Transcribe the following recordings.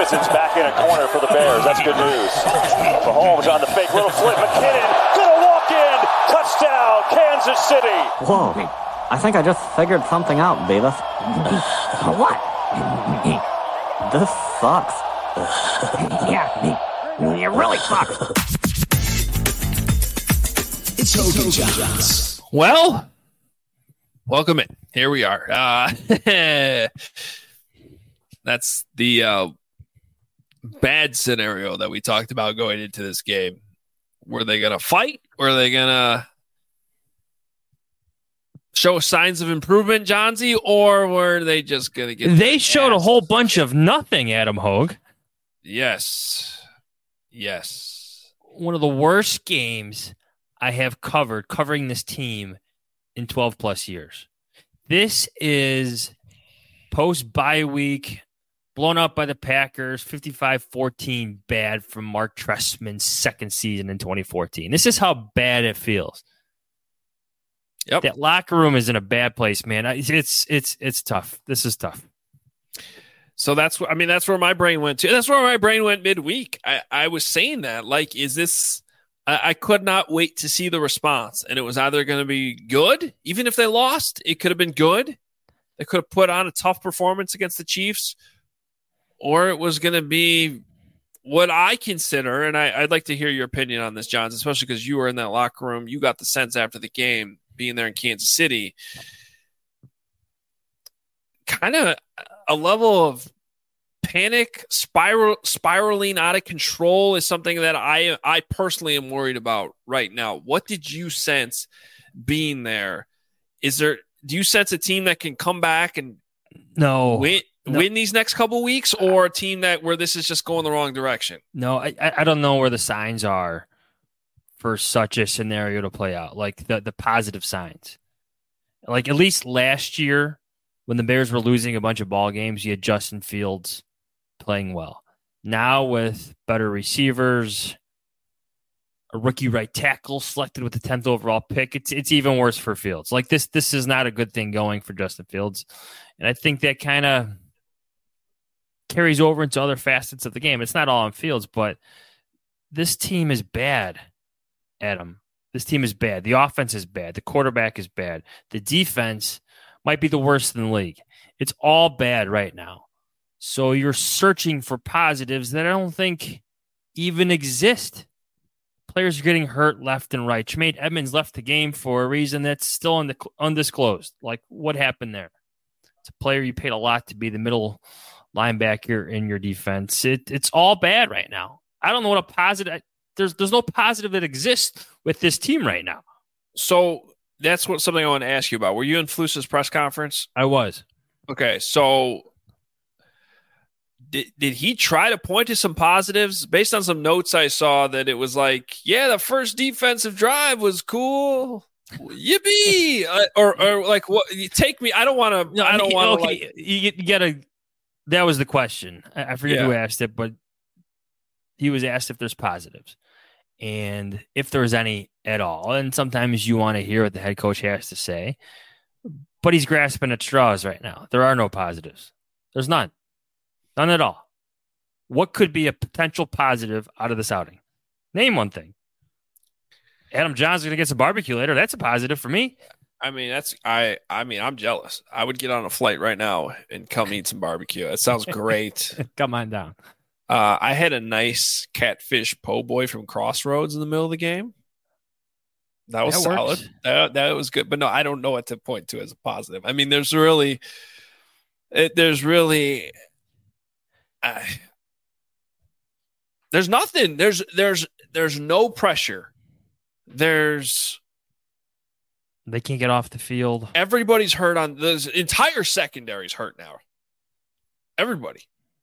Stephenson's back in a corner for the Bears. That's good news. Mahomes on the fake little flip. McKinnon gonna walk in. Touchdown, Kansas City. Whoa. I think I just figured something out, Beavis. What? This sucks. Yeah, it really sucks. It's Hogan Johns. Well, welcome in. Here we are. That's the bad scenario that we talked about going into this game. Were they going to fight? Were they going to show signs of improvement, Johnsy? Or were they just going to get... They showed a whole bunch of nothing, Adam Hogue. Yes. One of the worst games I have covering this team in 12 plus years. This is post-bye week, blown up by the Packers, 55-14 bad from Mark Trestman's second season in 2014. This is how bad it feels. Yep. That locker room is in a bad place, man. It's tough. This is tough. So that's where my brain went to. That's where my brain went midweek. I was saying that, like, is this... I could not wait to see the response, and it was either going to be good, even if they lost, it could have been good. They could have put on a tough performance against the Chiefs, or it was going to be what I consider, and I'd like to hear your opinion on this, Johns, especially because you were in that locker room. You got the sense after the game, being there in Kansas City, kind of a level of panic, spiraling out of control is something that I personally am worried about right now. What did you sense being there? Do you sense a team that can come back and win these next couple weeks, or a team where this is just going the wrong direction? No, I don't know where the signs are for such a scenario to play out, like the positive signs. Like at least last year when the Bears were losing a bunch of ball games, you had Justin Fields playing well. Now with better receivers, a rookie right tackle selected with the 10th overall pick, it's even worse for Fields. Like this is not a good thing going for Justin Fields. And I think that kind of carries over into other facets of the game. It's not all on Fields, but this team is bad, Adam. This team is bad. The offense is bad. The quarterback is bad. The defense might be the worst in the league. It's all bad right now. So you're searching for positives that I don't think even exist. Players are getting hurt left and right. Tremaine Edmonds left the game for a reason that's still undisclosed. Like, what happened there? It's a player you paid a lot to be the middle linebacker in your defense. It's all bad right now. I don't know what a positive... There's no positive that exists with this team right now. So that's something I want to ask you about. Were you in Flus's press conference? I was. Okay, so did he try to point to some positives? Based on some notes I saw, that it was like, yeah, the first defensive drive was cool. Yippee! or like, what? Take me. I don't want to. I don't want to. Okay, you gotta. That was the question. I forget who asked it, but he was asked if there's positives and if there's any at all. And sometimes you want to hear what the head coach has to say, but he's grasping at straws right now. There are no positives. There's none. None at all. What could be a potential positive out of this outing? Name one thing. Adam John's going to get some barbecue later. That's a positive for me. I mean, I'm jealous. I would get on a flight right now and come eat some barbecue. That sounds great. Come on down. I had a nice catfish po' boy from Crossroads in the middle of the game. That was solid. That was good. But no, I don't know what to point to as a positive. I mean, there's nothing. There's no pressure. They can't get off the field. Everybody's hurt on the entire secondary's hurt now. Everybody.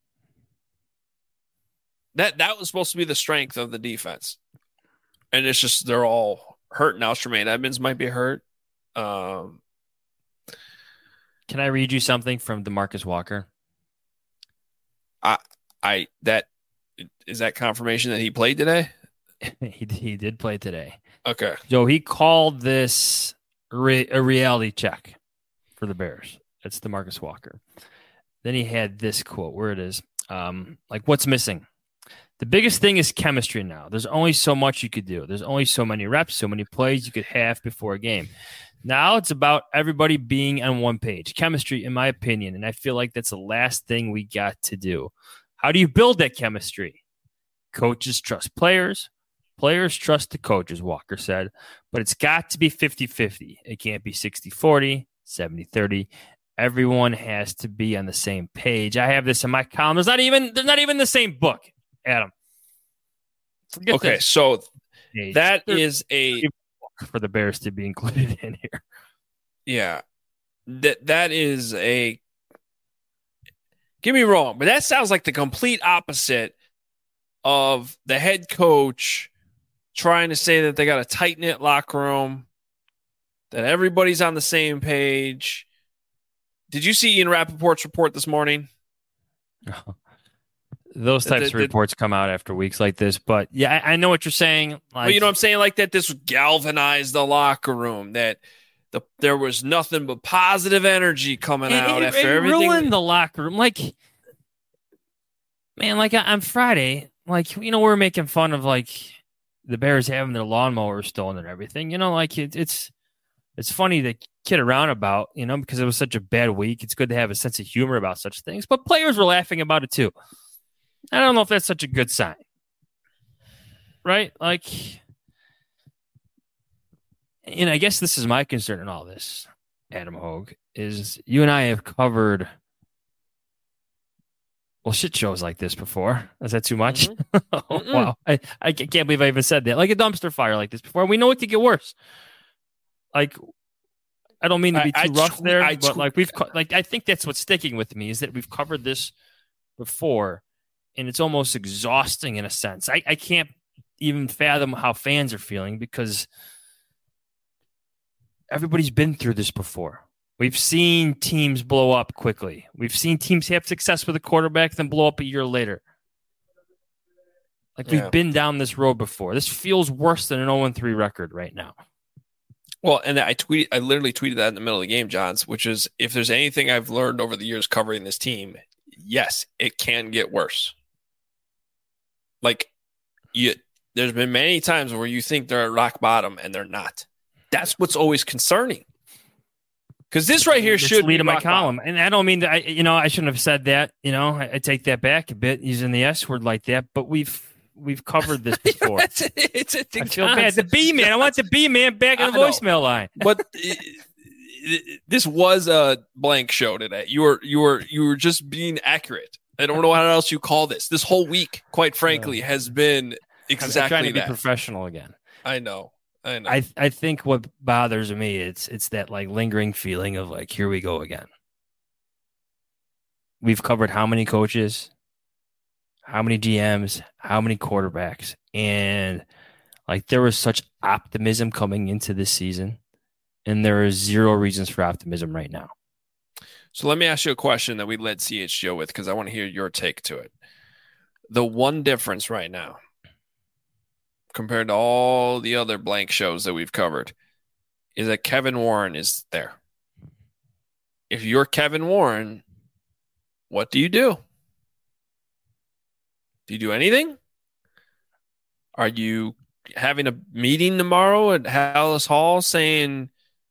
That was supposed to be the strength of the defense. And it's just they're all hurt now. Tremaine Edmonds might be hurt. Can I read you something from DeMarcus Walker? Is that confirmation that he played today? He did play today. Okay. So he called this a reality check for the Bears. That's DeMarcus Walker. Then he had this quote, where it is. Like what's missing? The biggest thing is chemistry now. There's only so much you could do. There's only so many reps, so many plays you could have before a game. Now it's about everybody being on one page. Chemistry, in my opinion, and I feel like that's the last thing we got to do. How do you build that chemistry? Coaches trust players. Players trust the coaches, Walker said. But it's got to be 50-50. It can't be 60-40, 70-30. Everyone has to be on the same page. I have this in my column. There's not even the same book, Adam. Forget Okay, this. so Page. that is a for the Bears to be included in here. yeah. That is a get me wrong, but that sounds like the complete opposite of the head coach trying to say that they got a tight-knit locker room, that everybody's on the same page. Did you see Ian Rappaport's report this morning? Those types of reports come out after weeks like this, but yeah, I know what you're saying. Like, well, you know what I'm saying? Like that this galvanized the locker room, that there was nothing but positive energy coming out after everything. Ruined the locker room. Like, man, like on Friday, like, you know, we're making fun of like the Bears having their lawnmower stolen and everything. You know, like it's funny to kid around about, you know, because it was such a bad week. It's good to have a sense of humor about such things, but players were laughing about it too. I don't know if that's such a good sign, right? Like, and I guess this is my concern in all this, Adam Hogue, is you and I have covered, well, shit shows like this before. Is that too much? Oh, wow. I can't believe I even said that. Like a dumpster fire like this before. We know it could get worse. Like, I don't mean to be too rough there, but like I think that's what's sticking with me is that we've covered this before, and it's almost exhausting in a sense. I can't even fathom how fans are feeling because everybody's been through this before. We've seen teams blow up quickly. We've seen teams have success with a quarterback, then blow up a year later. Like we've been down this road before. This feels worse than an 0-3 record right now. Well, and I literally tweeted that in the middle of the game, Johns, which is if there's anything I've learned over the years covering this team, yes, it can get worse. Like, there's been many times where you think they're at rock bottom and they're not. That's what's always concerning. Because this right here should lead be my column, and I don't mean that. I shouldn't have said that. You know, I take that back a bit using the S word like that. But we've covered this before. I feel bad. The B man. I want the B man back in the voicemail line. But this was a blank show today. You were just being accurate. I don't know what else you call this. This whole week, quite frankly, has been exactly I'm trying to be that. Professional again. I know. I think what bothers me it's that like lingering feeling of like, here we go again. We've covered how many coaches, how many GMs, how many quarterbacks, and like there was such optimism coming into this season, and there are zero reasons for optimism right now. So let me ask you a question that we led CHGO with because I want to hear your take to it. The one difference right now compared to all the other blank shows that we've covered is that Kevin Warren is there. If you're Kevin Warren, what do you do? Do you do anything? Are you having a meeting tomorrow at Hallis Hall saying,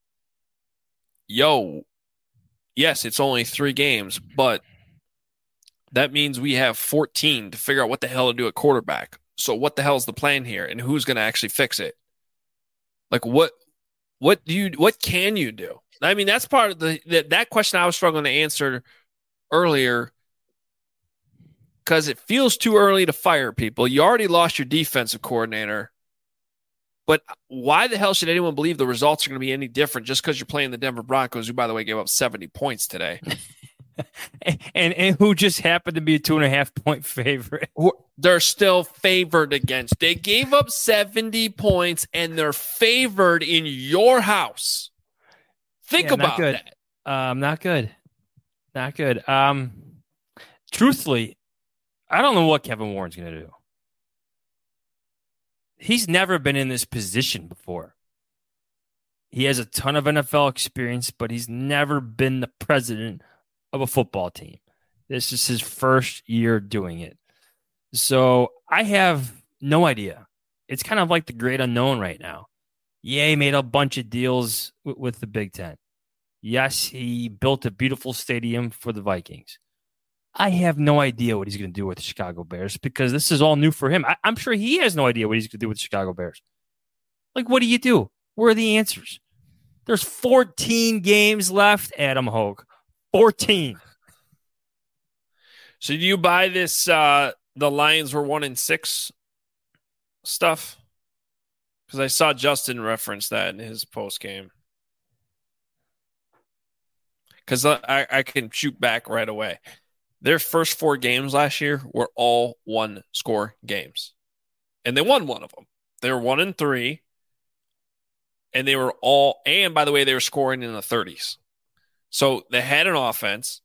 yo, yes, it's only 3 games, but that means we have 14 to figure out what the hell to do at quarterback. So what the hell is the plan here, and who's going to actually fix it? Like what can you do? I mean, that's part of that question I was struggling to answer earlier because it feels too early to fire people. You already lost your defensive coordinator, but why the hell should anyone believe the results are going to be any different just because you're playing the Denver Broncos, who, by the way, gave up 70 points today? and who just happened to be a 2.5-point favorite. They're still favored against. They gave up 70 points and they're favored in your house. Think about that. Not good. Not good. Truthfully, I don't know what Kevin Warren's going to do. He's never been in this position before. He has a ton of NFL experience, but he's never been the president of a football team. This is his first year doing it. So I have no idea. It's kind of like the great unknown right now. Yeah, he made a bunch of deals with the Big Ten. Yes, he built a beautiful stadium for the Vikings. I have no idea what he's going to do with the Chicago Bears because this is all new for him. I'm sure he has no idea what he's going to do with the Chicago Bears. Like, what do you do? Where are the answers? There's 14 games left, Adam Hogue. 14. So do you buy this the Lions were 1-6 stuff? Because I saw Justin reference that in his post game. Because I can shoot back right away. Their first 4 games last year were all 1-score games. And they won one of them. They were 1-3. And they were all, and by the way, they were scoring in the 30s. So they had an offense.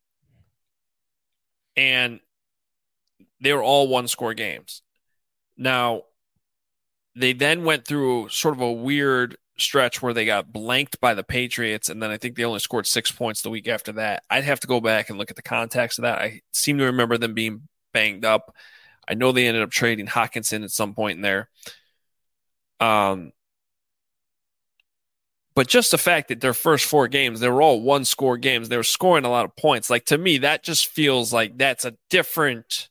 And they were all 1-score games. Now, they then went through sort of a weird stretch where they got blanked by the Patriots, and then I think they only scored 6 points the week after that. I'd have to go back and look at the context of that. I seem to remember them being banged up. I know they ended up trading Hawkinson at some point in there. But just the fact that their first 4 games, they were all 1-score games. They were scoring a lot of points. Like, to me, that just feels like that's a different.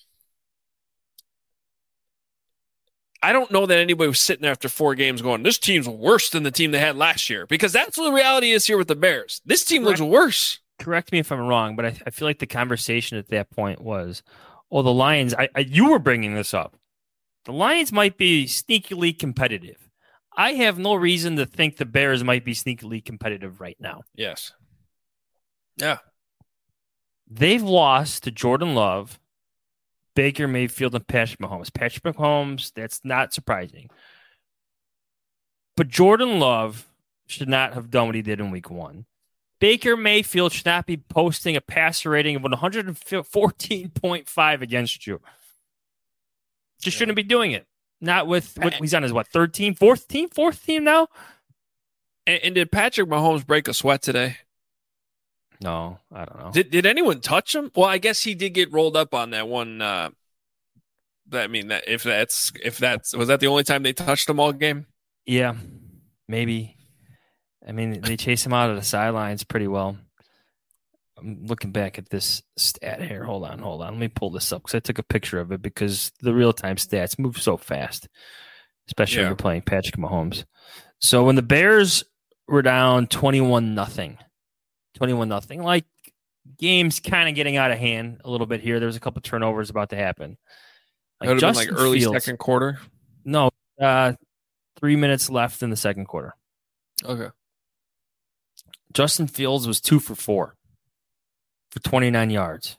I don't know that anybody was sitting there after 4 games going, this team's worse than the team they had last year, because that's what the reality is here with the Bears. This team looks worse. Correct me if I'm wrong, but I feel like the conversation at that point was, oh, the Lions, you were bringing this up. The Lions might be sneakily competitive. I have no reason to think the Bears might be sneakily competitive right now. Yes. Yeah. They've lost to Jordan Love, Baker Mayfield, and Patrick Mahomes. Patrick Mahomes, that's not surprising. But Jordan Love should not have done what he did in week 1. Baker Mayfield should not be posting a passer rating of 114.5 against you. Just shouldn't be doing it. Not with he's on his, third team, fourth team now? And did Patrick Mahomes break a sweat today? No, I don't know. Did anyone touch him? Well, I guess he did get rolled up on that one. Was that the only time they touched him all game? Yeah, maybe. I mean, they chase him out of the sidelines pretty well. I'm looking back at this stat here. Hold on. Let me pull this up because I took a picture of it because the real-time stats move so fast, especially when you're playing Patrick Mahomes. So when the Bears were down 21-0, like games kind of getting out of hand a little bit here. There's a couple turnovers about to happen. Like it would have been like early second quarter? No, 3 minutes left in the second quarter. Okay. Justin Fields was 2 for 4 for 29 yards.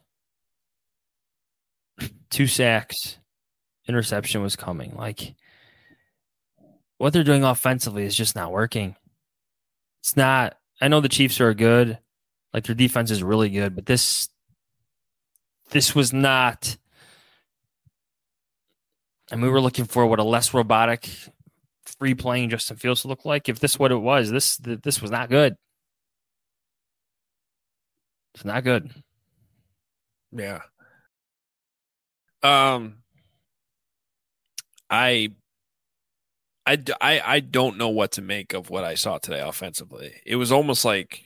2 sacks. Interception was coming. Like, what they're doing offensively is just not working. It's not. I know the Chiefs are good. Like, their defense is really good, but this was not. And we were looking for what a less robotic, free playing Justin Fields looked like. If this is what it was, this was not good. It's not good. Yeah. I don't know what to make of what I saw today offensively. It was almost like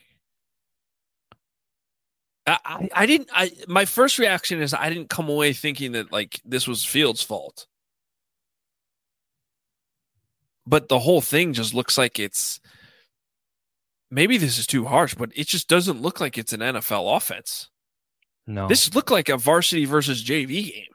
my first reaction is I didn't come away thinking that like this was Fields' fault. But the whole thing just looks like it's, maybe this is too harsh, but it just doesn't look like it's an NFL offense. No. This looked like a varsity versus JV game.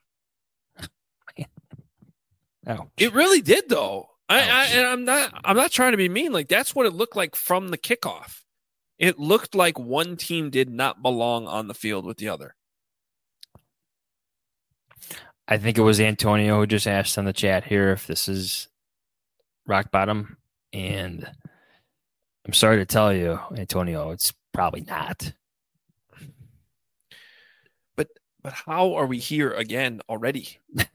Ouch. It really did, though. I'm not trying to be mean. Like, that's what it looked like from the kickoff. It looked like one team did not belong on the field with the other. I think it was Antonio who just asked on the chat here if this is rock bottom, and I'm sorry to tell you, Antonio, it's probably not. But how are we here again already?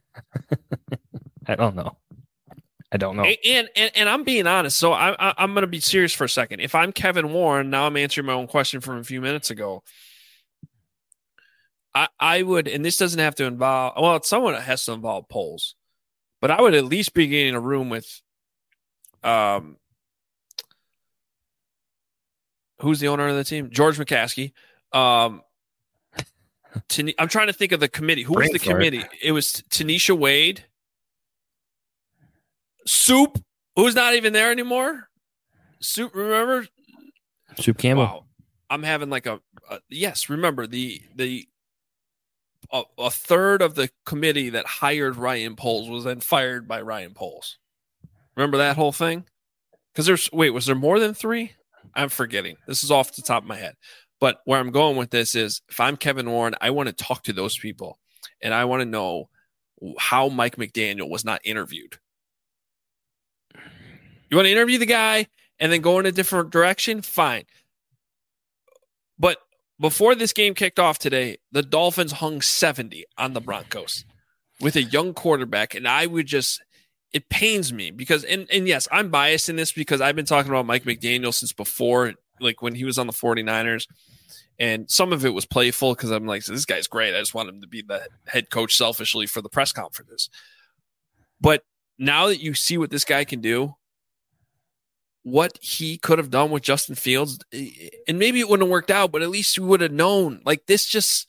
I don't know. And I'm being honest, so I'm going to be serious for a second. If I'm Kevin Warren, now I'm answering my own question from a few minutes ago. I would, and this doesn't have to involve, well, it's someone that has to involve polls, but I would at least be getting a room with, who's the owner of the team? George McCaskey. I'm trying to think of the committee. Who was the committee? It was Tanisha Wade. Soup, who's not even there anymore. Soup, remember? Soup Campbell. Wow. I'm having like yes, remember a third of the committee that hired Ryan Poles was then fired by Ryan Poles. Remember that whole thing? Because was there more than 3? I'm forgetting. This is off the top of my head. But where I'm going with this is, if I'm Kevin Warren, I want to talk to those people, and I want to know how Mike McDaniel was not interviewed. You want to interview the guy and then go in a different direction? Fine. But before this game kicked off today, the Dolphins hung 70 on the Broncos with a young quarterback, and it pains me because, and yes, I'm biased in this because I've been talking about Mike McDaniel since before, like when he was on the 49ers, and some of it was playful because I'm like, this guy's great. I just want him to be the head coach selfishly for the press conferences. But now that you see what this guy can do, what he could have done with Justin Fields, and maybe it wouldn't have worked out, but at least you would have known. Like it just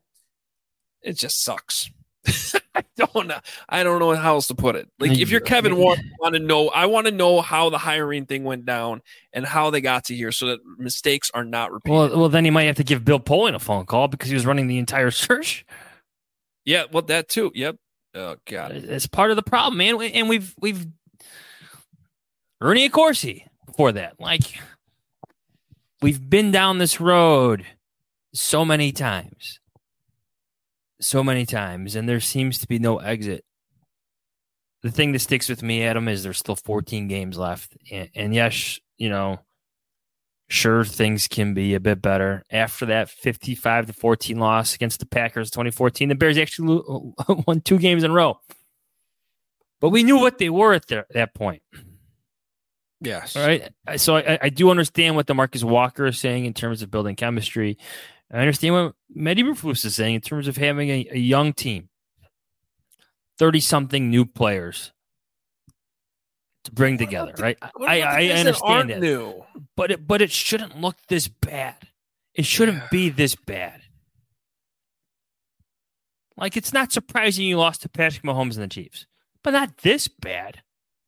sucks. I don't know how else to put it. Like if you're Kevin Warren, I want to know how the hiring thing went down and how they got to here so that mistakes are not repeated. Well, then he might have to give Bill Polian a phone call because he was running the entire search. Yeah, well, that too. Yep. Oh God, it's part of the problem, man. And we've Ernie Accorsi before that. Like we've been down this road so many times. And there seems to be no exit. The thing that sticks with me, Adam, is there's still 14 games left. And yes, sure, things can be a bit better. After that 55-14 loss against the Packers 2014, the Bears actually won 2 games in a row. But we knew what they were at that point. Yes. All right. So I do understand what DeMarcus Walker is saying in terms of building chemistry. I understand what Mehdi Eberflus is saying in terms of having a young team, 30-something new players to bring together, right? I understand that. New? But it shouldn't look this bad. It shouldn't be this bad. Like, it's not surprising you lost to Patrick Mahomes and the Chiefs, but not this bad.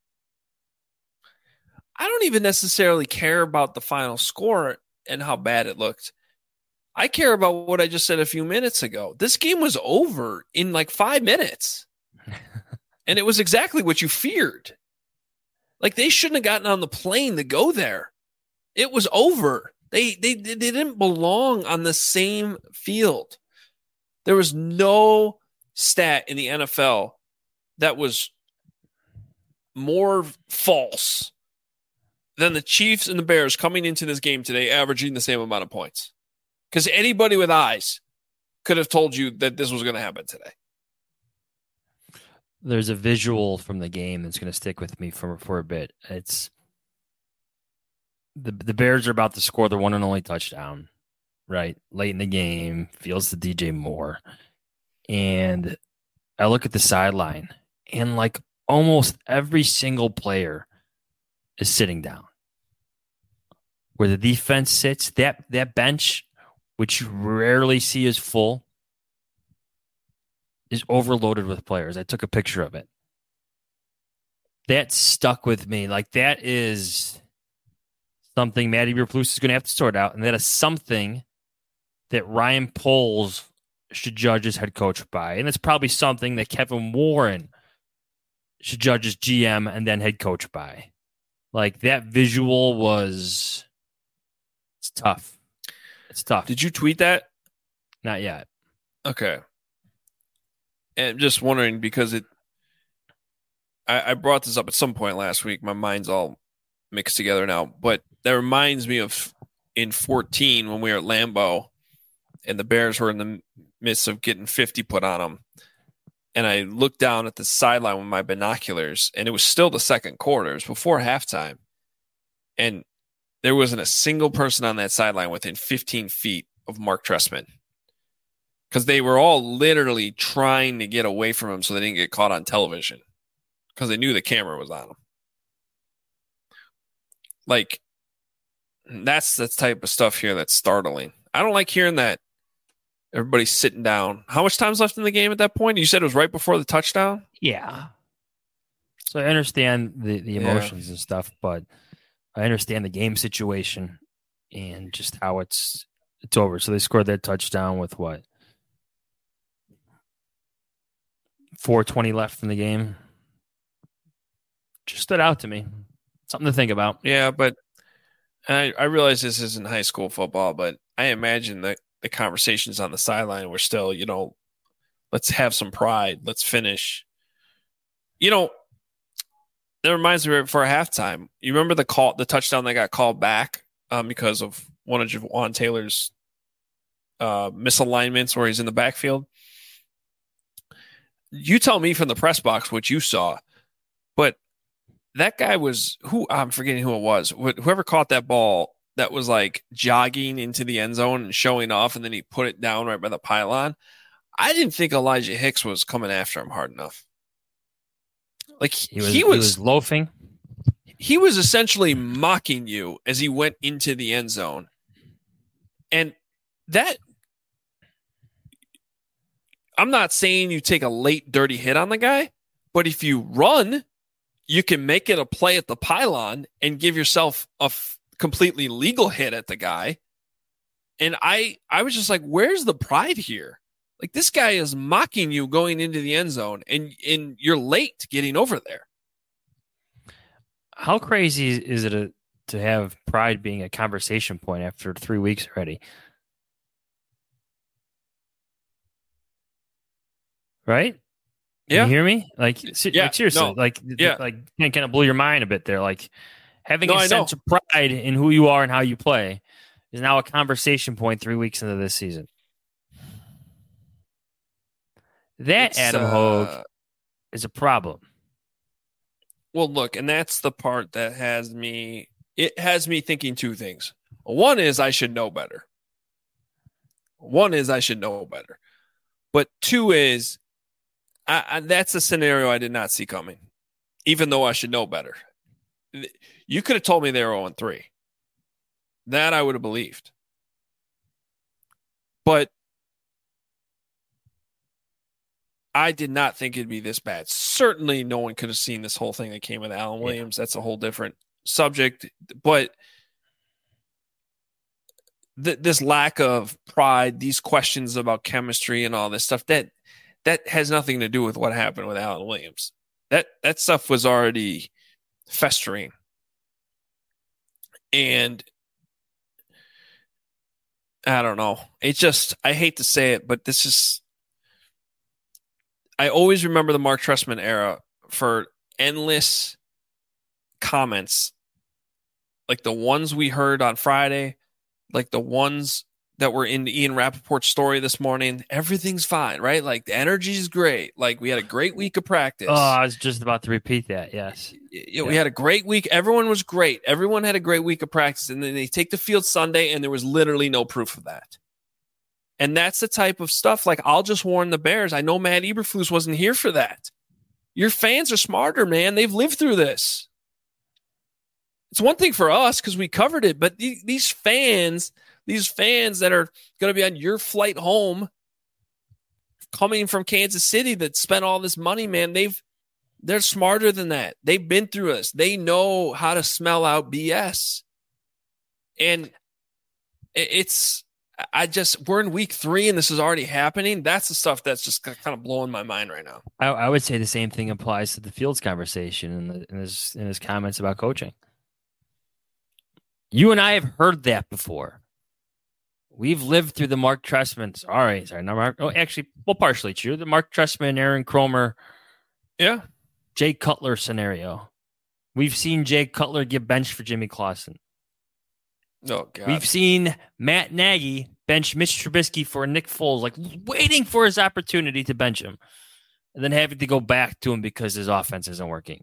I don't even necessarily care about the final score and how bad it looked. I care about what I just said a few minutes ago. This game was over in like 5 minutes. And it was exactly what you feared. Like they shouldn't have gotten on the plane to go there. It was over. They didn't belong on the same field. There was no stat in the NFL that was more false than the Chiefs and the Bears coming into this game today averaging the same amount of points. Because anybody with eyes could have told you that this was going to happen today. There's a visual from the game that's going to stick with me for a bit. It's the Bears are about to score their one and only touchdown, right? Late in the game, Fields to DJ Moore. And I look at the sideline, and like almost every single player is sitting down. Where the defense sits, that bench, which you rarely see as full, is overloaded with players. I took a picture of it. That stuck with me. Like, that is something Matty Eberflus is going to have to sort out, and that is something that Ryan Poles should judge his head coach by. And it's probably something that Kevin Warren should judge his GM and then head coach by. Like, that visual was... It's tough. It's tough. Did you tweet that? Not yet. Okay. And just wondering because I brought this up at some point last week. My mind's all mixed together now, but that reminds me of in 14 when we were at Lambeau and the Bears were in the midst of getting 50 put on them. And I looked down at the sideline with my binoculars, and it was still the second quarter. It was before halftime. And there wasn't a single person on that sideline within 15 feet of Mark Trestman. because they were all literally trying to get away from him so they didn't get caught on television because they knew the camera was on him. Like, that's the type of stuff here that's startling. I don't like hearing that everybody's sitting down. How much time's left in the game at that point? You said it was right before the touchdown? Yeah. So I understand the emotions and stuff, but I understand the game situation and just how it's over. So they scored that touchdown with what? 4:20 left in the game. Just stood out to me. Something to think about. Yeah, but I realize this isn't high school football, but I imagine that the conversations on the sideline were still, let's have some pride. Let's finish. That reminds me right before halftime. You remember the touchdown that got called back because of one of Javon Taylor's misalignments where he's in the backfield? You tell me from the press box what you saw, but that guy was I'm forgetting who it was. Whoever caught that ball that was like jogging into the end zone and showing off, and then he put it down right by the pylon. I didn't think Elijah Hicks was coming after him hard enough. Like he was loafing. He was essentially mocking you as he went into the end zone. And that, I'm not saying you take a late dirty hit on the guy, but if you run, you can make it a play at the pylon and give yourself a completely legal hit at the guy. And I was just like, where's the pride here? Like, this guy is mocking you going into the end zone, and you're late getting over there. How crazy is it to have pride being a conversation point after 3 weeks already? Right? Yeah. You hear me? Like seriously, no. like kind of blow your mind a bit there. Like, having a sense of pride in who you are and how you play is now a conversation point 3 weeks into this season. That, Adam Hogue, is a problem. Well, look, and that's the part that has me thinking two things. One is I should know better. But two is that's a scenario I did not see coming, even though I should know better. You could have told me they were 0-3. That I would have believed. But I did not think it'd be this bad. Certainly no one could have seen this whole thing that came with Alan Williams. That's a whole different subject. But this lack of pride, these questions about chemistry and all this stuff, that has nothing to do with what happened with Alan Williams. That stuff was already festering. And I don't know. It just, I hate to say it, but this is, I always remember the Mark Trestman era for endless comments, like the ones we heard on Friday, like the ones that were in Ian Rappaport's story this morning. Everything's fine, right? Like, the energy is great. Like, we had a great week of practice. Oh, I was just about to repeat that. Yes. We had a great week. Everyone was great. Everyone had a great week of practice. And then they take the field Sunday, and there was literally no proof of that. And that's the type of stuff, like, I'll just warn the Bears. I know Matt Eberflus wasn't here for that. Your fans are smarter, man. They've lived through this. It's one thing for us because we covered it, but these fans that are going to be on your flight home coming from Kansas City that spent all this money, man, they're smarter than that. They've been through this. They know how to smell out BS. And we're in week 3 and this is already happening. That's the stuff that's just kind of blowing my mind right now. I would say the same thing applies to the Fields conversation in his comments about coaching. You and I have heard that before. We've lived through the Mark Trestman. Partially true. The Mark Trestman, Aaron Kromer, Jay Cutler scenario. We've seen Jay Cutler get benched for Jimmy Clausen. Oh, God. We've seen Matt Nagy bench Mitch Trubisky for Nick Foles, like waiting for his opportunity to bench him, and then having to go back to him because his offense isn't working.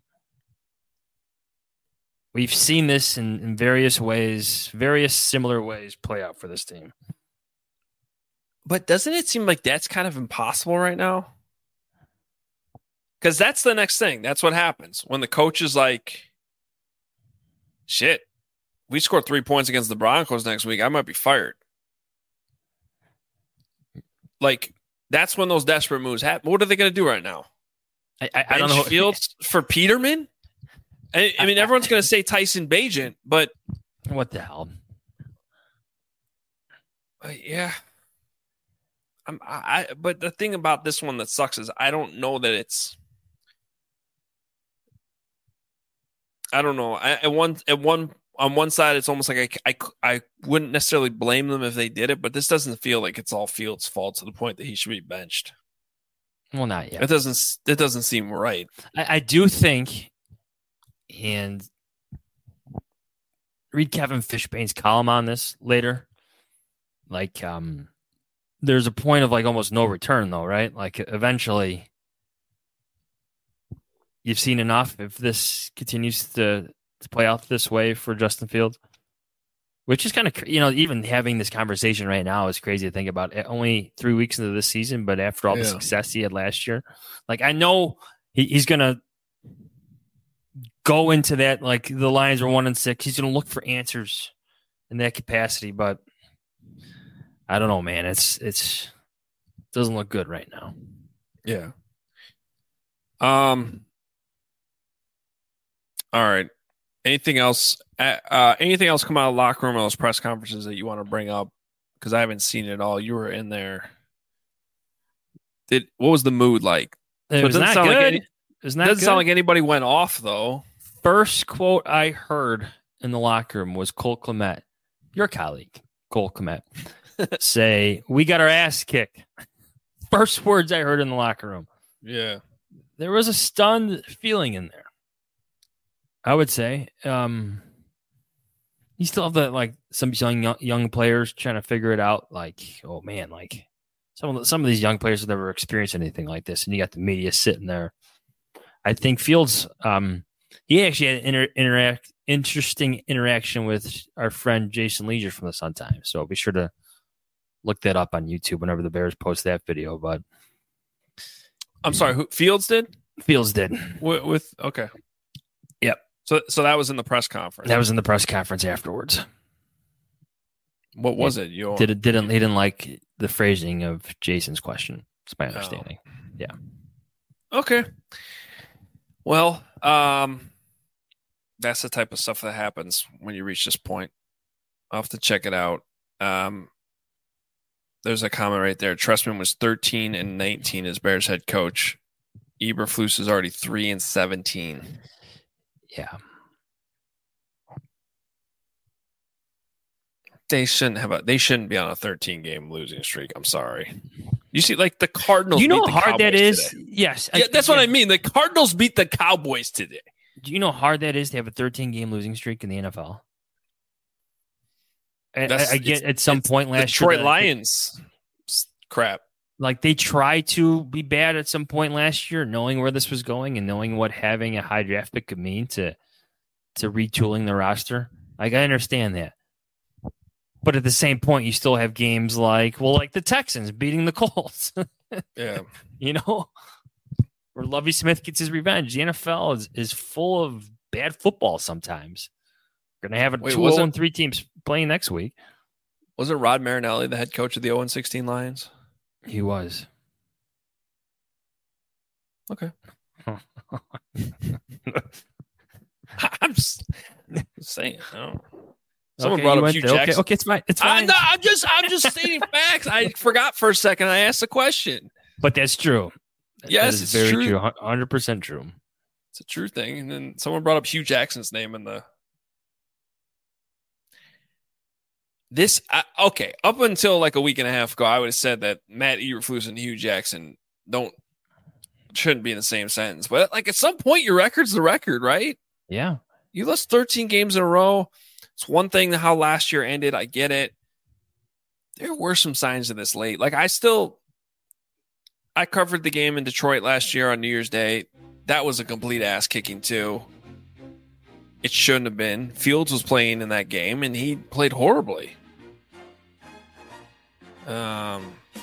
We've seen this in various ways, various similar ways play out for this team. But doesn't it seem like that's kind of impossible right now? Because that's the next thing. That's what happens when the coach is like, shit, we scored 3 points against the Broncos next week, I might be fired. Like, that's when those desperate moves happen. What are they going to do right now? I don't know. Fields for Peterman? I mean, everyone's going to say Tyson Bagent, but what the hell? Yeah. But the thing about this one that sucks is I don't know that it's. I don't know. On one side, it's almost like I wouldn't necessarily blame them if they did it, but this doesn't feel like it's all Fields' fault to the point that he should be benched. Well, not yet. It doesn't seem right. I do think, and read Kevin Fishbane's column on this later. Like, there's a point of like almost no return, though, right? Like, eventually, you've seen enough. If this continues to play out this way for Justin Fields, which is kind of, even having this conversation right now is crazy to think about. Only 3 weeks into this season, but after all the success he had last year, like, I know he's going to go into that. Like, the Lions are 1-6. He's going to look for answers in that capacity, but I don't know, man. It doesn't look good right now. Yeah. All right. Anything else? Anything else come out of the locker room or those press conferences that you want to bring up? Because I haven't seen it all. You were in there. What was the mood like? It was not good. It doesn't sound like anybody went off, though. First quote I heard in the locker room was Cole Kmet, your colleague, Cole Kmet, say, "We got our ass kicked." First words I heard in the locker room. Yeah. There was a stunned feeling in there, I would say. You still have the, some young players trying to figure it out. Like, oh man, like some of these young players have never experienced anything like this, and you got the media sitting there. I think Fields, he actually had an interesting interaction with our friend Jason Leisure from the Sun Times. So be sure to look that up on YouTube whenever the Bears post that video. But I'm sorry, who Fields did? Fields did. Okay. Yep. So that was in the press conference. That was in the press conference afterwards. What was it? He didn't like the phrasing of Jason's question. It's my understanding. Oh. Yeah. Okay. Well, that's the type of stuff that happens when you reach this point. I'll have to check it out. There's a comment right there. Trestman was 13-19 as Bears head coach. Eberflus is already 3-17. Yeah. They shouldn't be on a 13-game losing streak. I'm sorry. You see, like the Cardinals. You know beat how the hard that Cowboys is? Today. Yes. Yeah, that's what I mean. The Cardinals beat the Cowboys today. Do you know how hard that is to have a 13-game losing streak in the NFL? I get at some point last year. Detroit Lions crap. Like they tried to be bad at some point last year, knowing where this was going and knowing what having a high draft pick could mean to retooling the roster. Like I understand that. But at the same point, you still have games like the Texans beating the Colts. Yeah. Where Lovie Smith gets his revenge. The NFL is full of bad football sometimes. We're going to have 2-0-3 teams playing next week. Wasn't Rod Marinelli the head coach of the 0-16 Lions? He was. Okay. I'm just saying. Someone brought up Hugh Jackson. Okay, it's fine. It's fine. I'm just stating facts. I forgot for a second. I asked the question. But that's true. Yes, it's very true. 100% true. It's a true thing. And then someone brought up Hugh Jackson's name in the. Okay, up until like a week and a half ago, I would have said that Matt Eberflus and Hugh Jackson shouldn't be in the same sentence. But like at some point, your record's the record, right? Yeah. You lost 13 games in a row. It's one thing how last year ended. I get it. There were some signs of this late. Like I covered the game in Detroit last year on New Year's Day. That was a complete ass kicking too. It shouldn't have been. Fields was playing in that game and he played horribly.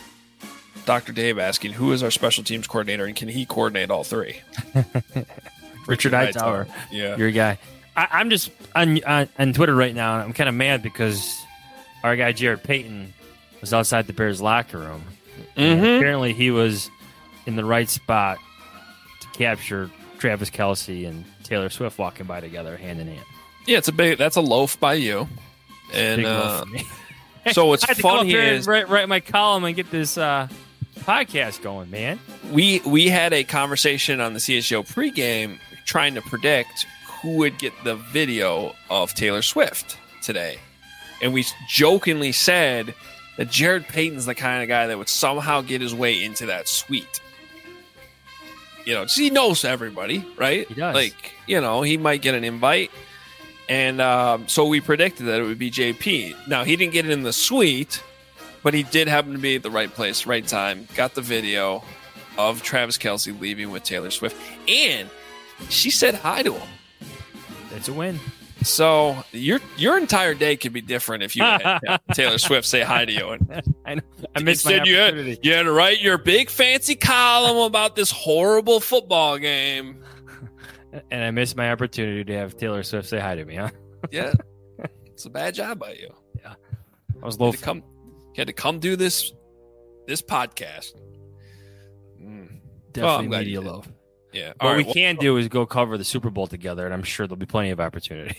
Dr. Dave asking, who is our special teams coordinator and can he coordinate all three? Richard Hightower. Yeah. Your guy. I'm just on Twitter right now, and I'm kind of mad because our guy Jared Payton was outside the Bears locker room. Apparently he was in the right spot to capture Travis Kelce and Taylor Swift walking by together hand in hand. Yeah, that's a loaf by you. And Big loaf for me. So what's I had to funny come up here is and write my column and get this podcast going, man. we had a conversation on the CSGO pregame trying to predict who would get the video of Taylor Swift today. And we jokingly said that Jared Payton's the kind of guy that would somehow get his way into that suite. You know, he knows everybody, right? He does. Like, you know, he might get an invite. And so we predicted that it would be JP. Now, he didn't get it in the suite, but he did happen to be at the right place, right time. Got the video of Travis Kelce leaving with Taylor Swift. And she said hi to him. It's a win. So your entire day could be different if you had Taylor Swift say hi to you. And I know. I missed my instead opportunity. you had to write your big fancy column about this horrible football game. And I missed my opportunity to have Taylor Swift say hi to me, huh? Yeah, it's a bad job by you. Yeah, I was low. You had to come do this podcast. Definitely glad media you did. love. Yeah. What we can do is go cover the Super Bowl together, and I'm sure there'll be plenty of opportunity.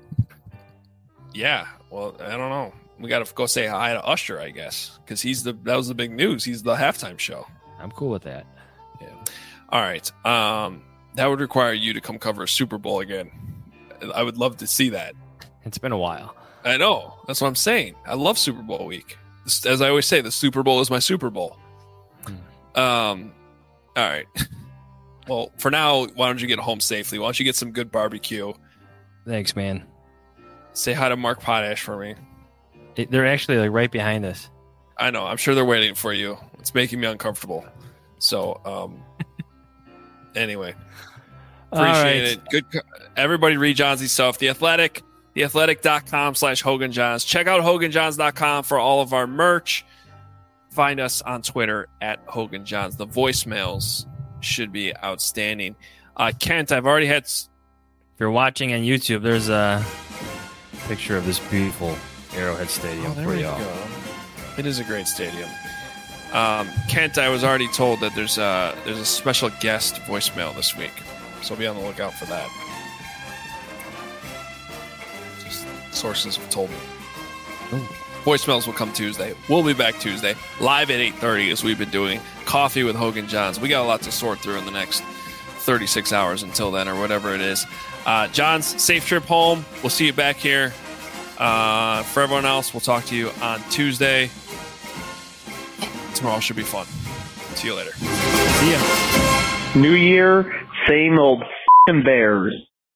Yeah. Well, I don't know. We got to go say hi to Usher, I guess, because that was the big news. He's the halftime show. I'm cool with that. Yeah. All right. That would require you to come cover a Super Bowl again. I would love to see that. It's been a while. I know. That's what I'm saying. I love Super Bowl week. As I always say, the Super Bowl is my Super Bowl. All right. Well, for now, why don't you get home safely? Why don't you get some good barbecue? Thanks, man. Say hi to Mark Potash for me. They're actually like right behind us. I know. I'm sure they're waiting for you. It's making me uncomfortable. So, anyway, appreciate it. Good. Everybody read Johnsy stuff. The Athletic, theathletic.com/Hogan Johns. Check out HoganJohns.com for all of our merch. Find us on Twitter at Hogan Johns. The voicemails should be outstanding. Kent, I've already had. If you're watching on YouTube, there's a picture of this beautiful Arrowhead Stadium for y'all. Go. It is a great stadium. Kent, I was already told that there's a special guest voicemail this week, so be on the lookout for that. Just sources have told me. Ooh. Voicemails will come Tuesday. We'll be back Tuesday, live at 8:30 as we've been doing. Coffee with Hogan Johns. We got a lot to sort through in the next 36 hours until then, or whatever it is. Johns, safe trip home. We'll see you back here. For everyone else, we'll talk to you on Tuesday. Tomorrow should be fun. See you later. See ya. New year, same old f***ing Bears.